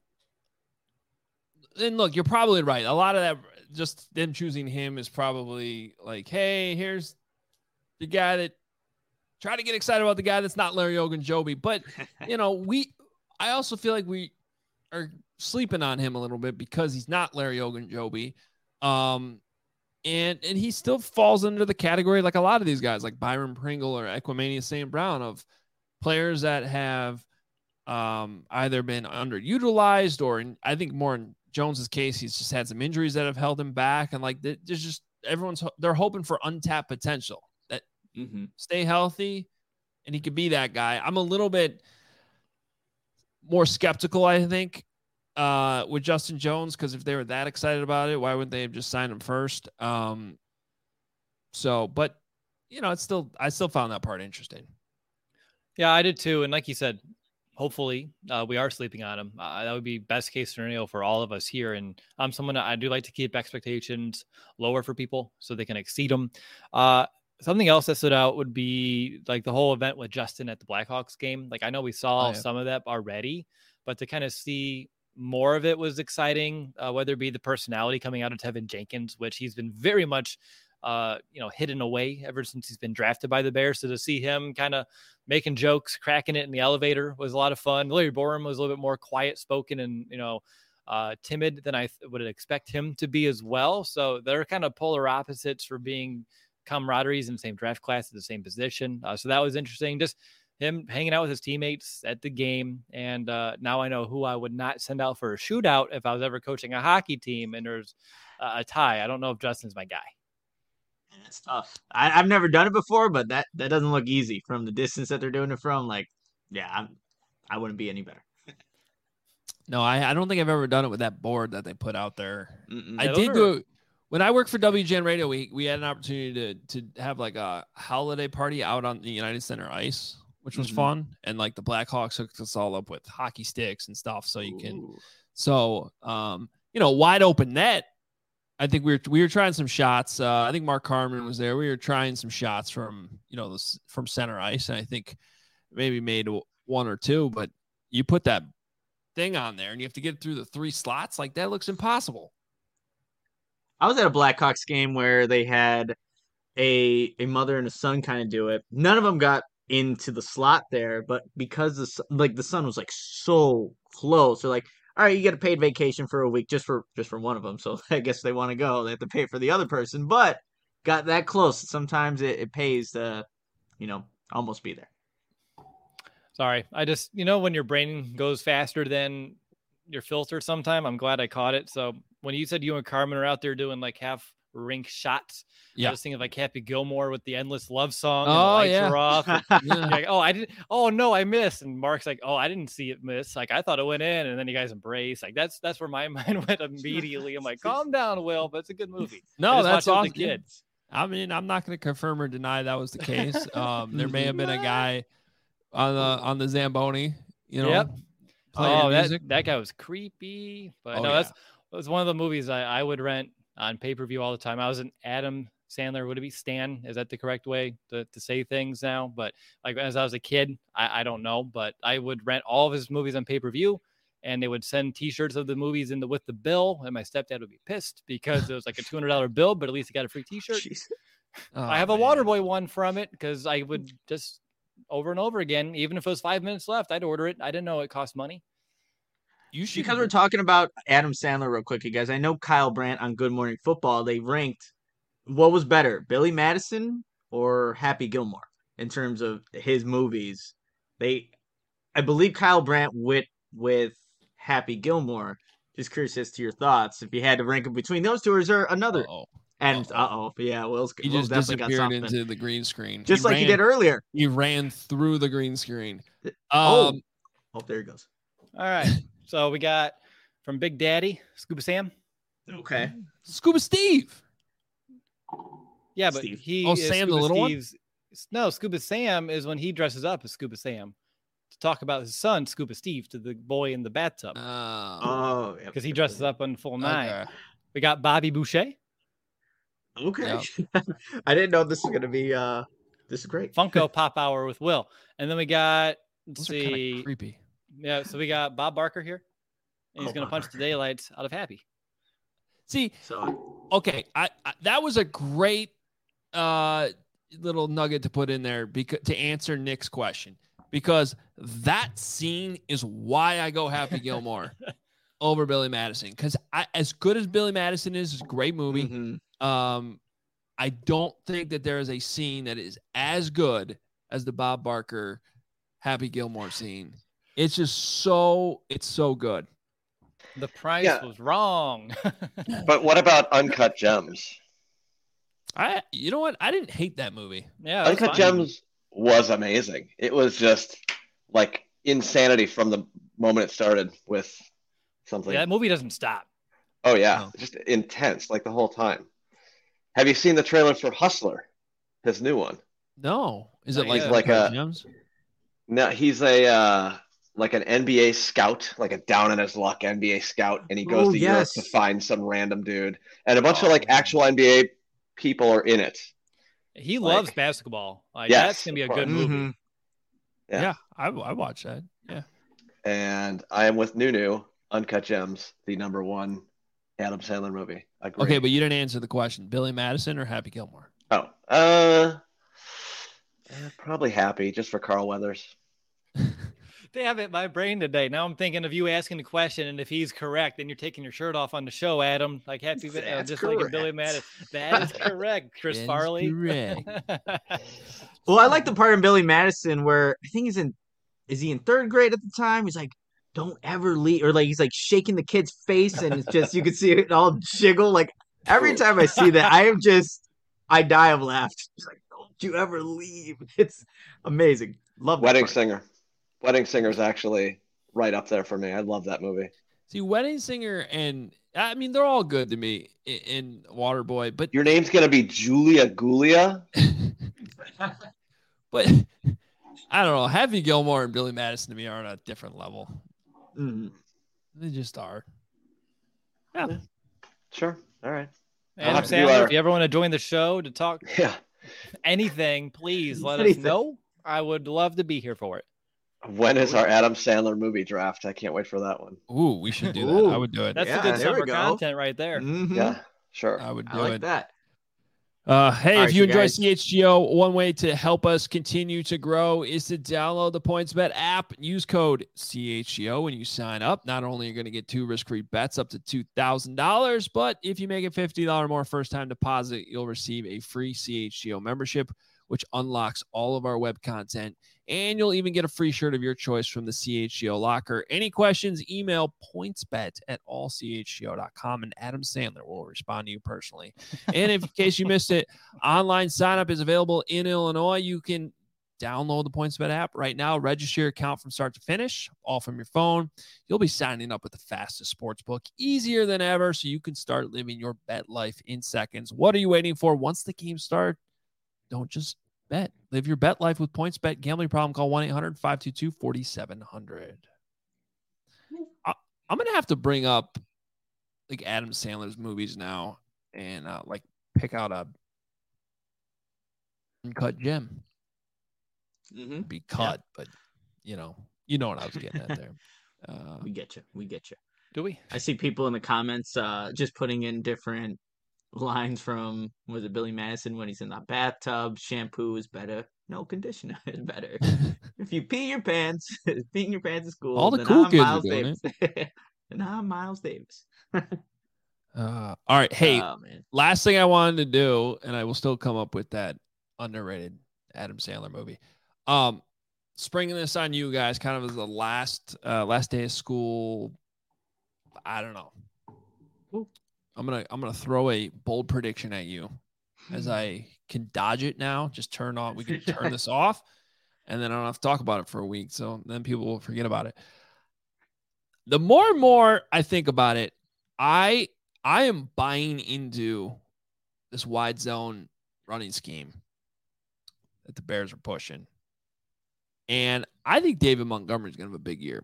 and look, you're probably right. A lot of that, just them choosing him is probably like, hey, here's the guy that try to get excited about the guy that's not Larry Ogunjobi. But, I also feel like we are sleeping on him a little bit because he's not Larry Ogunjobi. And he still falls under the category like a lot of these guys, like Byron Pringle or Equanimeous St. Brown, of players that have either been underutilized or, I think more in Jones's case, he's just had some injuries that have held him back. And like, there's just they're hoping for untapped potential. Stay healthy, and he could be that guy. I'm a little bit more skeptical, I think, with Justin Jones, because if they were that excited about it, why wouldn't they have just signed him first? But it's still, I still found that part interesting. Yeah, I did too. And like you said, hopefully we are sleeping on him. That would be best case scenario for all of us here. And I'm someone that I do like to keep expectations lower for people so they can exceed them. Something else that stood out would be like the whole event with Justin at the Blackhawks game. Like, I know we saw some of that already, but to kind of see more of it was exciting, whether it be the personality coming out of Tevin Jenkins, which he's been very much, hidden away ever since he's been drafted by the Bears. So to see him kind of making jokes, cracking it in the elevator was a lot of fun. Larry Borum was a little bit more quiet spoken and, timid than I would expect him to be as well. So they're kind of polar opposites for being camaraderies in the same draft class at the same position. So that was interesting. Just him hanging out with his teammates at the game. And now I know who I would not send out for a shootout if I was ever coaching a hockey team and there's a tie. I don't know if Justin's my guy. That's tough. I've never done it before, but that doesn't look easy from the distance that they're doing it from. Like, yeah, I wouldn't be any better. No, I don't think I've ever done it with that board that they put out there. I did do it. When I worked for WGN Radio, we had an opportunity to have like a holiday party out on the United Center ice, which was fun. And like the Blackhawks hooked us all up with hockey sticks and stuff. So you can, wide open net. I think we were trying some shots. I think Mark Carmen was there. We were trying some shots from center ice. And I think maybe made one or two, but you put that thing on there and you have to get through the 3 slots. Like, that looks impossible. I was at a Blackhawks game where they had a mother and a son kind of do it. None of them got into the slot there, but because the sun was like so close, they're like, all right, you get a paid vacation for a week just for one of them. So I guess they want to go, they have to pay for the other person. But got that close. Sometimes it pays to, almost be there. Sorry, I just when your brain goes faster than your filter sometime. I'm glad I caught it. So when you said you and Carmen are out there doing like half rink shots, I was thinking of like Happy Gilmore with the Endless Love Song. And the lights are off. And like, I didn't. Oh no, I missed. And Mark's like, I didn't see it miss. Like I thought it went in, and then you guys embrace. Like that's where my mind went immediately. I'm like, calm down, Will, but it's a good movie. No, that's awesome. Kids. I mean, I'm not going to confirm or deny that was the case. There may have been a guy on the Zamboni. Yep. Oh, that guy was creepy. But that was one of the movies I would rent on pay-per-view all the time. I was an Adam Sandler. Would it be Stan? Is that the correct way to say things now? But like as I was a kid, I don't know, but I would rent all of his movies on pay-per-view, and they would send T-shirts of the movies with the bill, and my stepdad would be pissed because it was like a $200 bill, but at least he got a free T-shirt. I have a Waterboy one from it because I would just over and over again, even if it was 5 minutes left, I'd order it. I didn't know it cost money. Because we're talking about Adam Sandler real quick, you guys. I know Kyle Brandt on Good Morning Football, they ranked what was better, Billy Madison or Happy Gilmore in terms of his movies. I believe Kyle Brandt with Happy Gilmore. Just curious as to your thoughts. If you had to rank them between those two, or is there another? Yeah, Will's just disappeared into the green screen, just he did earlier. He ran through the green screen. There he goes. All right, so we got from Big Daddy, Scuba Sam. Okay, Scuba Steve. Yeah, but Steve. Sam the little one. No, Scuba Sam is when he dresses up as Scuba Sam to talk about his son, Scuba Steve, to the boy in the bathtub. Because he dresses up on full nine. Okay. We got Bobby Boucher. Okay. Yep. I didn't know this was going to be this is great. Funko Pop Hour with Will. And then we got creepy. Yeah, so we got Bob Barker here. And he's going to punch the daylights out of Happy. See, okay, I that was a great little nugget to put in there to answer Nick's question, because that scene is why I go Happy Gilmore over Billy Madison. Because as good as Billy Madison is, it's a great movie. Mm-hmm. I don't think that there is a scene that is as good as the Bob Barker Happy Gilmore scene. It's just it's so good. The price was wrong. But what about Uncut Gems? You know what? I didn't hate that movie. Yeah, Uncut Gems was amazing. It was just like insanity from the moment it started with something. Yeah, that movie doesn't stop. Oh yeah, just intense like the whole time. Have you seen the trailer for Hustler, his new one? No. Is it like Gems? No, he's like an NBA scout, like a down on his luck NBA scout, and he goes to Europe to find some random dude, and a bunch of actual NBA people are in it. He loves basketball. That's gonna be a good movie. Mm-hmm. Yeah, I watched that. Yeah, and I am with Nunu. Uncut Gems, the number one Adam Sandler movie. Agreed. Okay, but you didn't answer the question. Billy Madison or Happy Gilmore? Probably Happy, just for Carl Weathers. Damn it, my brain today. Now I'm thinking of you asking the question, and if he's correct, then you're taking your shirt off on the show, Adam. Like Happy, just correct. Like Billy Madison. That is correct, Chris Farley. Correct. Well, I like the part in Billy Madison where I think is he in third grade at the time? He's like, "Don't ever leave," or like he's like shaking the kid's face, and it's just you can see it all jiggle. Like every time I see that, I die of laughter. He's like, "Don't you ever leave." It's amazing. Love Wedding Singer. Wedding Singer is actually right up there for me. I love that movie. See, Wedding Singer and I mean they're all good to me in Waterboy, but your name's gonna be Julia Gulia. But I don't know. Happy Gilmore and Billy Madison to me are on a different level. Mm-hmm. They just are. Yeah. Sure. All right. Adam Sandler, if you ever want to join the show to talk anything, please let us know. I would love to be here for it. When is our Adam Sandler movie draft? I can't wait for that one. Ooh, we should do that. I would do it. That's a good summer content right there. Mm-hmm. Yeah, sure. I would do I like it. that. Hey, if you enjoy CHGO, one way to help us continue to grow is to download the PointsBet app. Use code CHGO when you sign up. Not only are you going to get 2 risk-free bets up to $2,000, but if you make a $50 more first-time deposit, you'll receive a free CHGO membership, which unlocks all of our web content, and you'll even get a free shirt of your choice from the CHGO locker. Any questions, email pointsbet@allchgo.com, and Adam Sandler will respond to you personally. And in case you missed it, online sign-up is available in Illinois. You can download the PointsBet app right now, register your account from start to finish, all from your phone. You'll be signing up with the fastest sports book, easier than ever, so you can start living your bet life in seconds. What are you waiting for? Once the game starts, don't just bet. Live your bet life with PointsBet. Gambling problem? Call 1-800-522-4700. I'm going to have to bring up like Adam Sandler's movies now and like pick out a Uncut Gem. Be cut, but you know what I was getting at there. We get you. Do we? I see people in the comments just putting in different lines from, was it Billy Madison when he's in the bathtub? Shampoo is better. No, conditioner is better. If you pee your pants, peeing your pants is cool. All the cool kids are doing it. And I'm Miles Davis. All right. Hey, last thing I wanted to do, and I will still come up with that underrated Adam Sandler movie. Springing this on you guys kind of as the last day of school. I don't know. Ooh. I'm gonna throw a bold prediction at you, as I can dodge it now. Just turn on. We can turn this off, and then I don't have to talk about it for a week. So then people will forget about it. The more and more I think about it, I am buying into this wide zone running scheme that the Bears are pushing, and I think David Montgomery is gonna have a big year.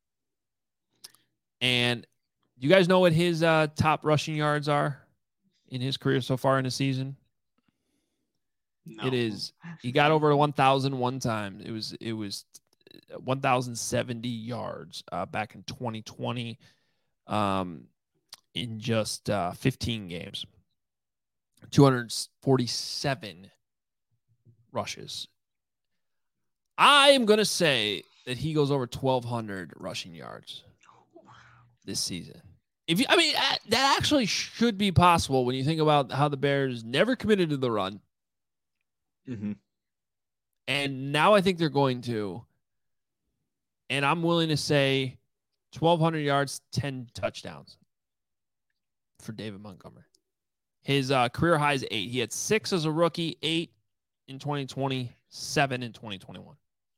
And you guys know what his top rushing yards are in his career so far in the season? No. It is, he got over 1,000 one time. It was 1,070 yards back in 2020 in just 15 games. 247 rushes. I am going to say that he goes over 1,200 rushing yards this season. That actually should be possible when you think about how the Bears never committed to the run. Mm-hmm. And now I think they're going to. And I'm willing to say 1,200 yards, 10 touchdowns for David Montgomery. His career high is 8. He had 6 as a rookie, 8 in 2020, 7 in 2021.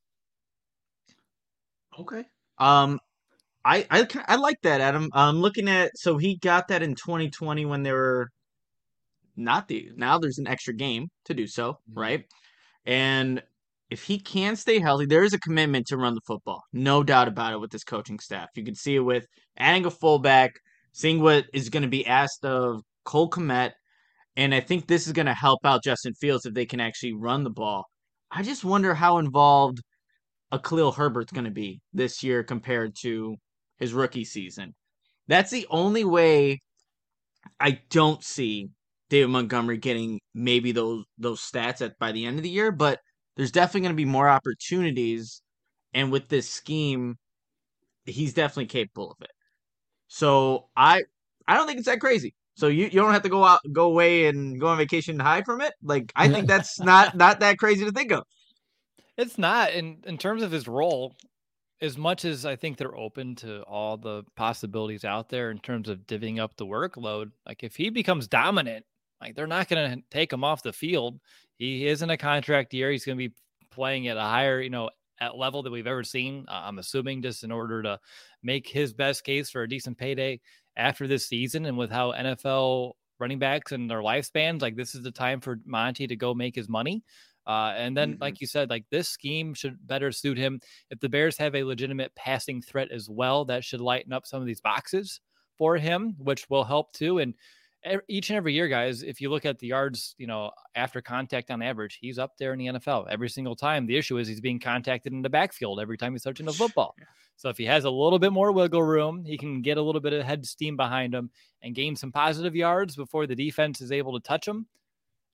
Okay. I like that, Adam. I'm looking at, so he got that in 2020 when they were now there's an extra game to do so, right? And if he can stay healthy, there is a commitment to run the football. No doubt about it with this coaching staff. You can see it with adding a fullback, seeing what is going to be asked of Cole Kmet, and I think this is going to help out Justin Fields if they can actually run the ball. I just wonder how involved a Khalil Herbert's going to be this year compared to his rookie season. That's the only way I don't see David Montgomery getting maybe those stats by the end of the year, but there's definitely going to be more opportunities, and with this scheme, he's definitely capable of it. So I don't think it's that crazy. So you don't have to go away and go on vacation and hide from it. Like, I think that's not that crazy to think of. It's not in terms of his role. As much as I think they're open to all the possibilities out there in terms of divvying up the workload, like if he becomes dominant, like they're not going to take him off the field. He is in a contract year. He's going to be playing at a higher, at level that we've ever seen. I'm assuming just in order to make his best case for a decent payday after this season. And with how NFL running backs and their lifespans, like this is the time for Monty to go make his money. And then, like you said, like this scheme should better suit him. If the Bears have a legitimate passing threat as well, that should lighten up some of these boxes for him, which will help too. And each and every year, guys, if you look at the yards, after contact on average, he's up there in the NFL every single time. The issue is he's being contacted in the backfield every time he's touching the football. So if he has a little bit more wiggle room, he can get a little bit of head steam behind him and gain some positive yards before the defense is able to touch him.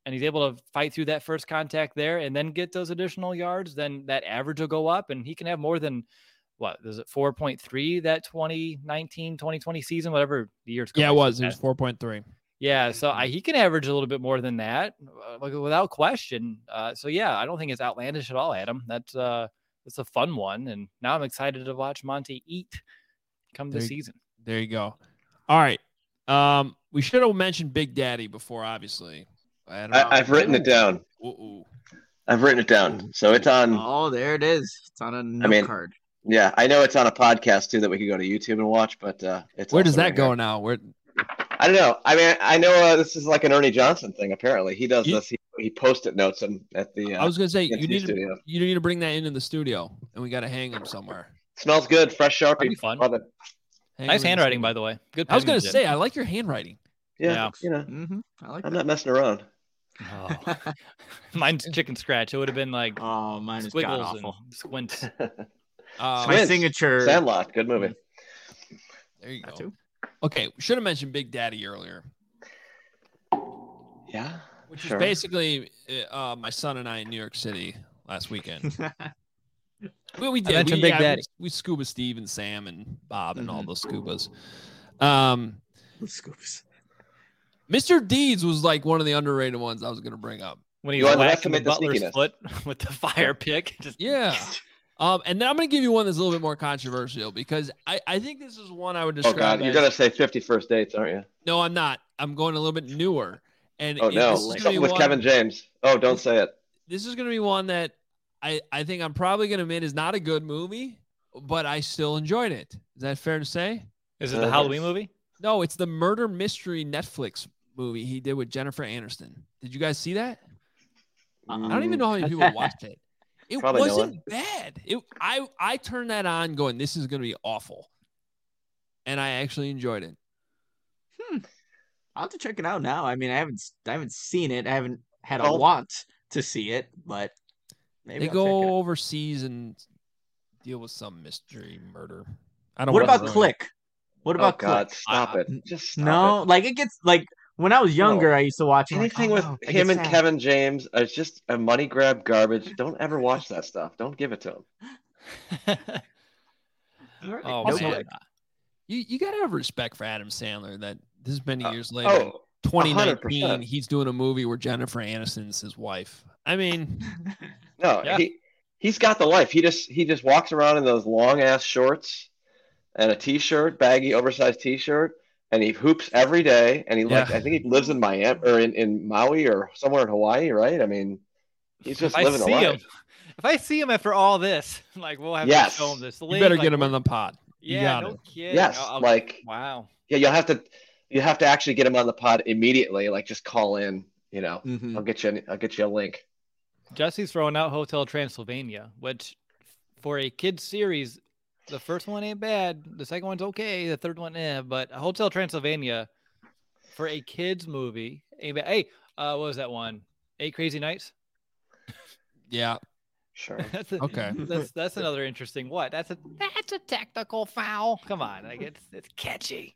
and he's able to fight through that first contact there and then get those additional yards, then that average will go up and he can have more than what is it 4.3 that 2019-2020 season, whatever the years. Yeah, it was 4.3. Yeah, so he can average a little bit more than that without question. So yeah, I don't think it's outlandish at all, Adam. That's a fun one, and now I'm excited to watch Monty eat come this season. There you go. All right, we should have mentioned Big Daddy before, obviously. I've written it down. Ooh. I've written it down, so it's on. Oh, there it is. It's on a note card. Yeah, I know it's on a podcast too that we could go to YouTube and watch, but it's where does that go now? Where? I don't know. I mean, I know this is like an Ernie Johnson thing. Apparently, he does this. He post-it notes at the. I was gonna say you need to bring that into the studio, and we got to hang them somewhere. Smells good, fresh Sharpie. That'd be fun. Love it. Nice handwriting, by the way. Good. I was gonna say I like your handwriting. Yeah. You know, I'm not messing around. Oh. Mine's chicken scratch. It would have been like mine is god awful. Squints. My signature. Sandlot, good movie. There you go. Okay, we should have mentioned Big Daddy earlier. Yeah, which is basically my son and I in New York City last weekend. we did. Big Daddy. We scuba Steve and Sam and Bob and all those scubas. Scubas. Mr. Deeds was like one of the underrated ones I was going to bring up. When he was whacking the Butler's foot with the fire pick. Yeah. And then I'm going to give you one that's a little bit more controversial because I think this is one I would describe. Oh, God. You're going to say 50 First Dates, aren't you? No, I'm not. I'm going a little bit newer. And something with Kevin James. Oh, don't say it. This is going to be one that I think I'm probably going to admit is not a good movie, but I still enjoyed it. Is that fair to say? Is it the Halloween movie? No, it's the murder mystery Netflix movie he did with Jennifer Aniston. Did you guys see that? I don't even know how many people watched it. It wasn't bad. I turned that on going, this is going to be awful. And I actually enjoyed it. I'll have to check it out now. I mean, I haven't seen it. I haven't had a want to see it, but maybe they go overseas and deal with some mystery murder. I don't. What about Click? What about Click? God, stop it. Just stop it. Like it gets like when I was younger, I used to watch anything with him and Kevin James. It's just a money grab garbage. Don't ever watch that stuff. Don't give it to him. Man. You got to have respect for Adam Sandler that this many years later, 2019, 100%. He's doing a movie where Jennifer Aniston's his wife. I mean, no, he's got the life. He just walks around in those long ass shorts and a t-shirt, baggy, oversized t-shirt, and he hoops every day. And I think he lives in Miami or in Maui or somewhere in Hawaii, right? I mean, he's just living the life. If I see him after all this, like we'll have to show him this. You better get him on the pod. Yeah, no kidding. Yes, wow. Yeah, you have to actually get him on the pod immediately. Like just call in. You know, I'll get you a link. Jesse's throwing out Hotel Transylvania, which for a kids series, the first one ain't bad. The second one's okay. The third one, but Hotel Transylvania for a kids movie ain't bad. Hey, what was that one? 8 Crazy Nights. Yeah. Sure. Okay. That's another interesting. What? That's a technical foul. Come on, like it's catchy.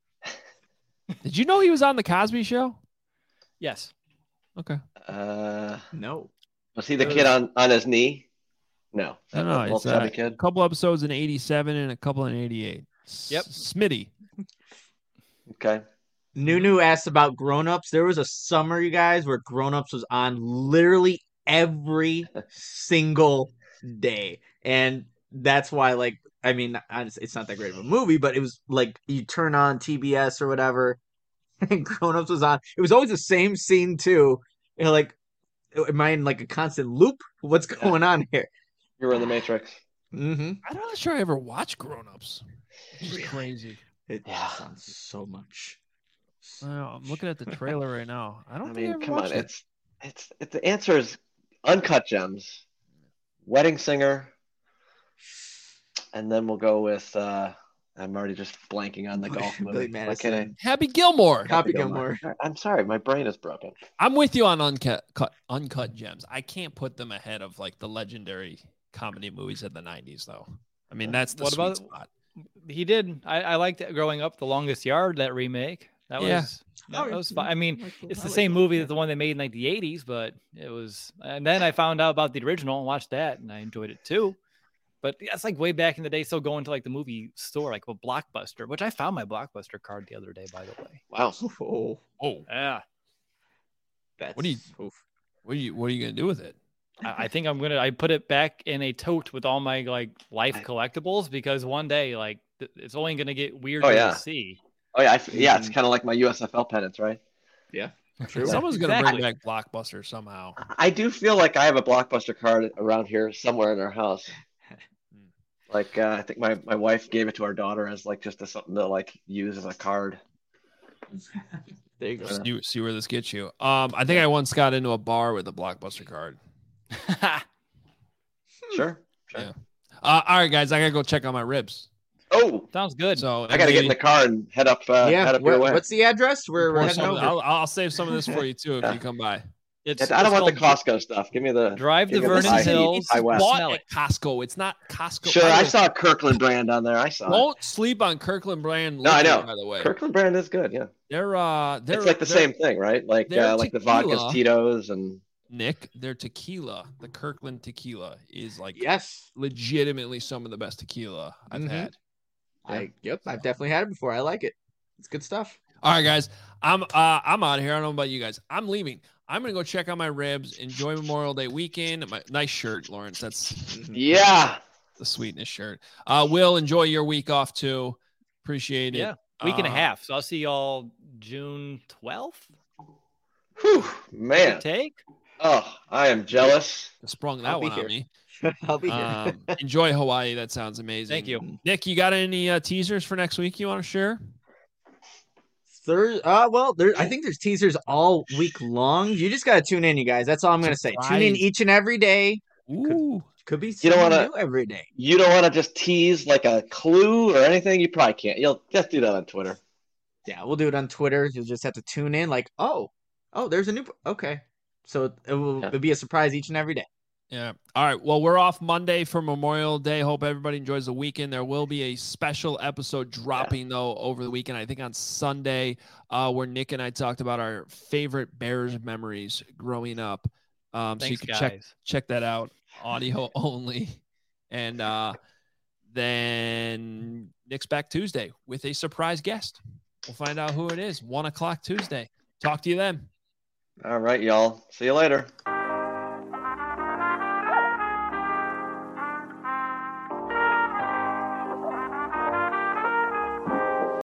Did you know he was on the Cosby Show? Yes. Okay. No. Was he the kid on his knee? No. No. It's a couple episodes in '87 and a couple in '88. Yep. Smitty. Okay. Nunu asked about Grown Ups. There was a summer, you guys, where Grown Ups was on literally every single day, and that's why, like, I mean, it's not that great of a movie, but it was like you turn on TBS or whatever, and Grown Ups was on. It was always the same scene too. You know, like, am I in like a constant loop? What's going on here? You're in the Matrix. I'm not sure I ever watched Grown Ups. It's crazy. It sounds so much. I'm looking at the trailer right now. I mean, come on. It's the answer is Uncut Gems, Wedding Singer, and then we'll go with I'm already just blanking on the golf movie. Happy Gilmore. Happy Gilmore. I'm sorry, my brain is broken. I'm with you on Uncut Gems. I can't put them ahead of like the legendary comedy movies of the 90s, though. I mean, that's the sweet spot. He did. I liked it growing up. The Longest Yard, that remake. That was fun. I mean, it's the same movie as the one they made in like the 80s, but it was. And then I found out about the original and watched that, and I enjoyed it too. But that's like way back in the day. Still going to like the movie store, like a Blockbuster, which I found my Blockbuster card the other day, by the way. Wow. Oh, yeah. What are you gonna do with it? I think I put it back in a tote with all my like life collectibles, because one day like it's only gonna get weirder to see. Oh yeah, it's kind of like my USFL pennants, right? Yeah, true. Someone's gonna bring back Blockbuster somehow. I do feel like I have a Blockbuster card around here somewhere in our house. Like I think my wife gave it to our daughter as like just something to like use as a card. There you go. See where this gets you. I think I once got into a bar with a Blockbuster card. Sure. Yeah. All right, guys, I gotta go check on my ribs. Oh, sounds good. So I gotta get in the car and head up. Head up your way. What's the address? We're heading over. I'll save some of this for you too if you come by. I don't want the Costco stuff. Give me the drive to Vernon Hills. I bought at Costco. It's not Costco. Sure, I saw Kirkland brand on there. I saw. Don't sleep on Kirkland brand. No, I know. By the way, Kirkland brand is good. Yeah, they're it's like the same thing, right? Like the vodkas, Tito's, and Nick. Their tequila, the Kirkland tequila, is like legitimately some of the best tequila I've had. I've definitely had it before. I like it. It's good stuff. All right, guys. I'm out of here. I don't know about you guys. I'm leaving. I'm gonna go check on my ribs. Enjoy Memorial Day weekend. My nice shirt, Lawrence. That's the sweetness shirt. Will, enjoy your week off too. Appreciate it. Yeah, week and a half. So I'll see y'all June 12th. Whew, man. Take. Oh, I am jealous. Sprung that one on me. I'll be here. Enjoy Hawaii. That sounds amazing. Thank you, Nick. You got any teasers for next week you want to share? I think there's teasers all week long. You just gotta tune in, you guys. That's all I'm gonna say. Tune in each and every day. Ooh, could be something new every day. You don't want to just tease like a clue or anything. You probably can't. You'll just do that on Twitter. Yeah, we'll do it on Twitter. You'll just have to tune in. Like, oh, there's a new. Okay, so it'll be a surprise each and every day. Yeah. All right. Well, we're off Monday for Memorial Day. Hope everybody enjoys the weekend. There will be a special episode dropping, though, over the weekend. I think on Sunday, where Nick and I talked about our favorite Bears memories growing up. So you can check that out. Audio only. And then Nick's back Tuesday with a surprise guest. We'll find out who it is. 1:00 Tuesday. Talk to you then. All right, y'all. See you later.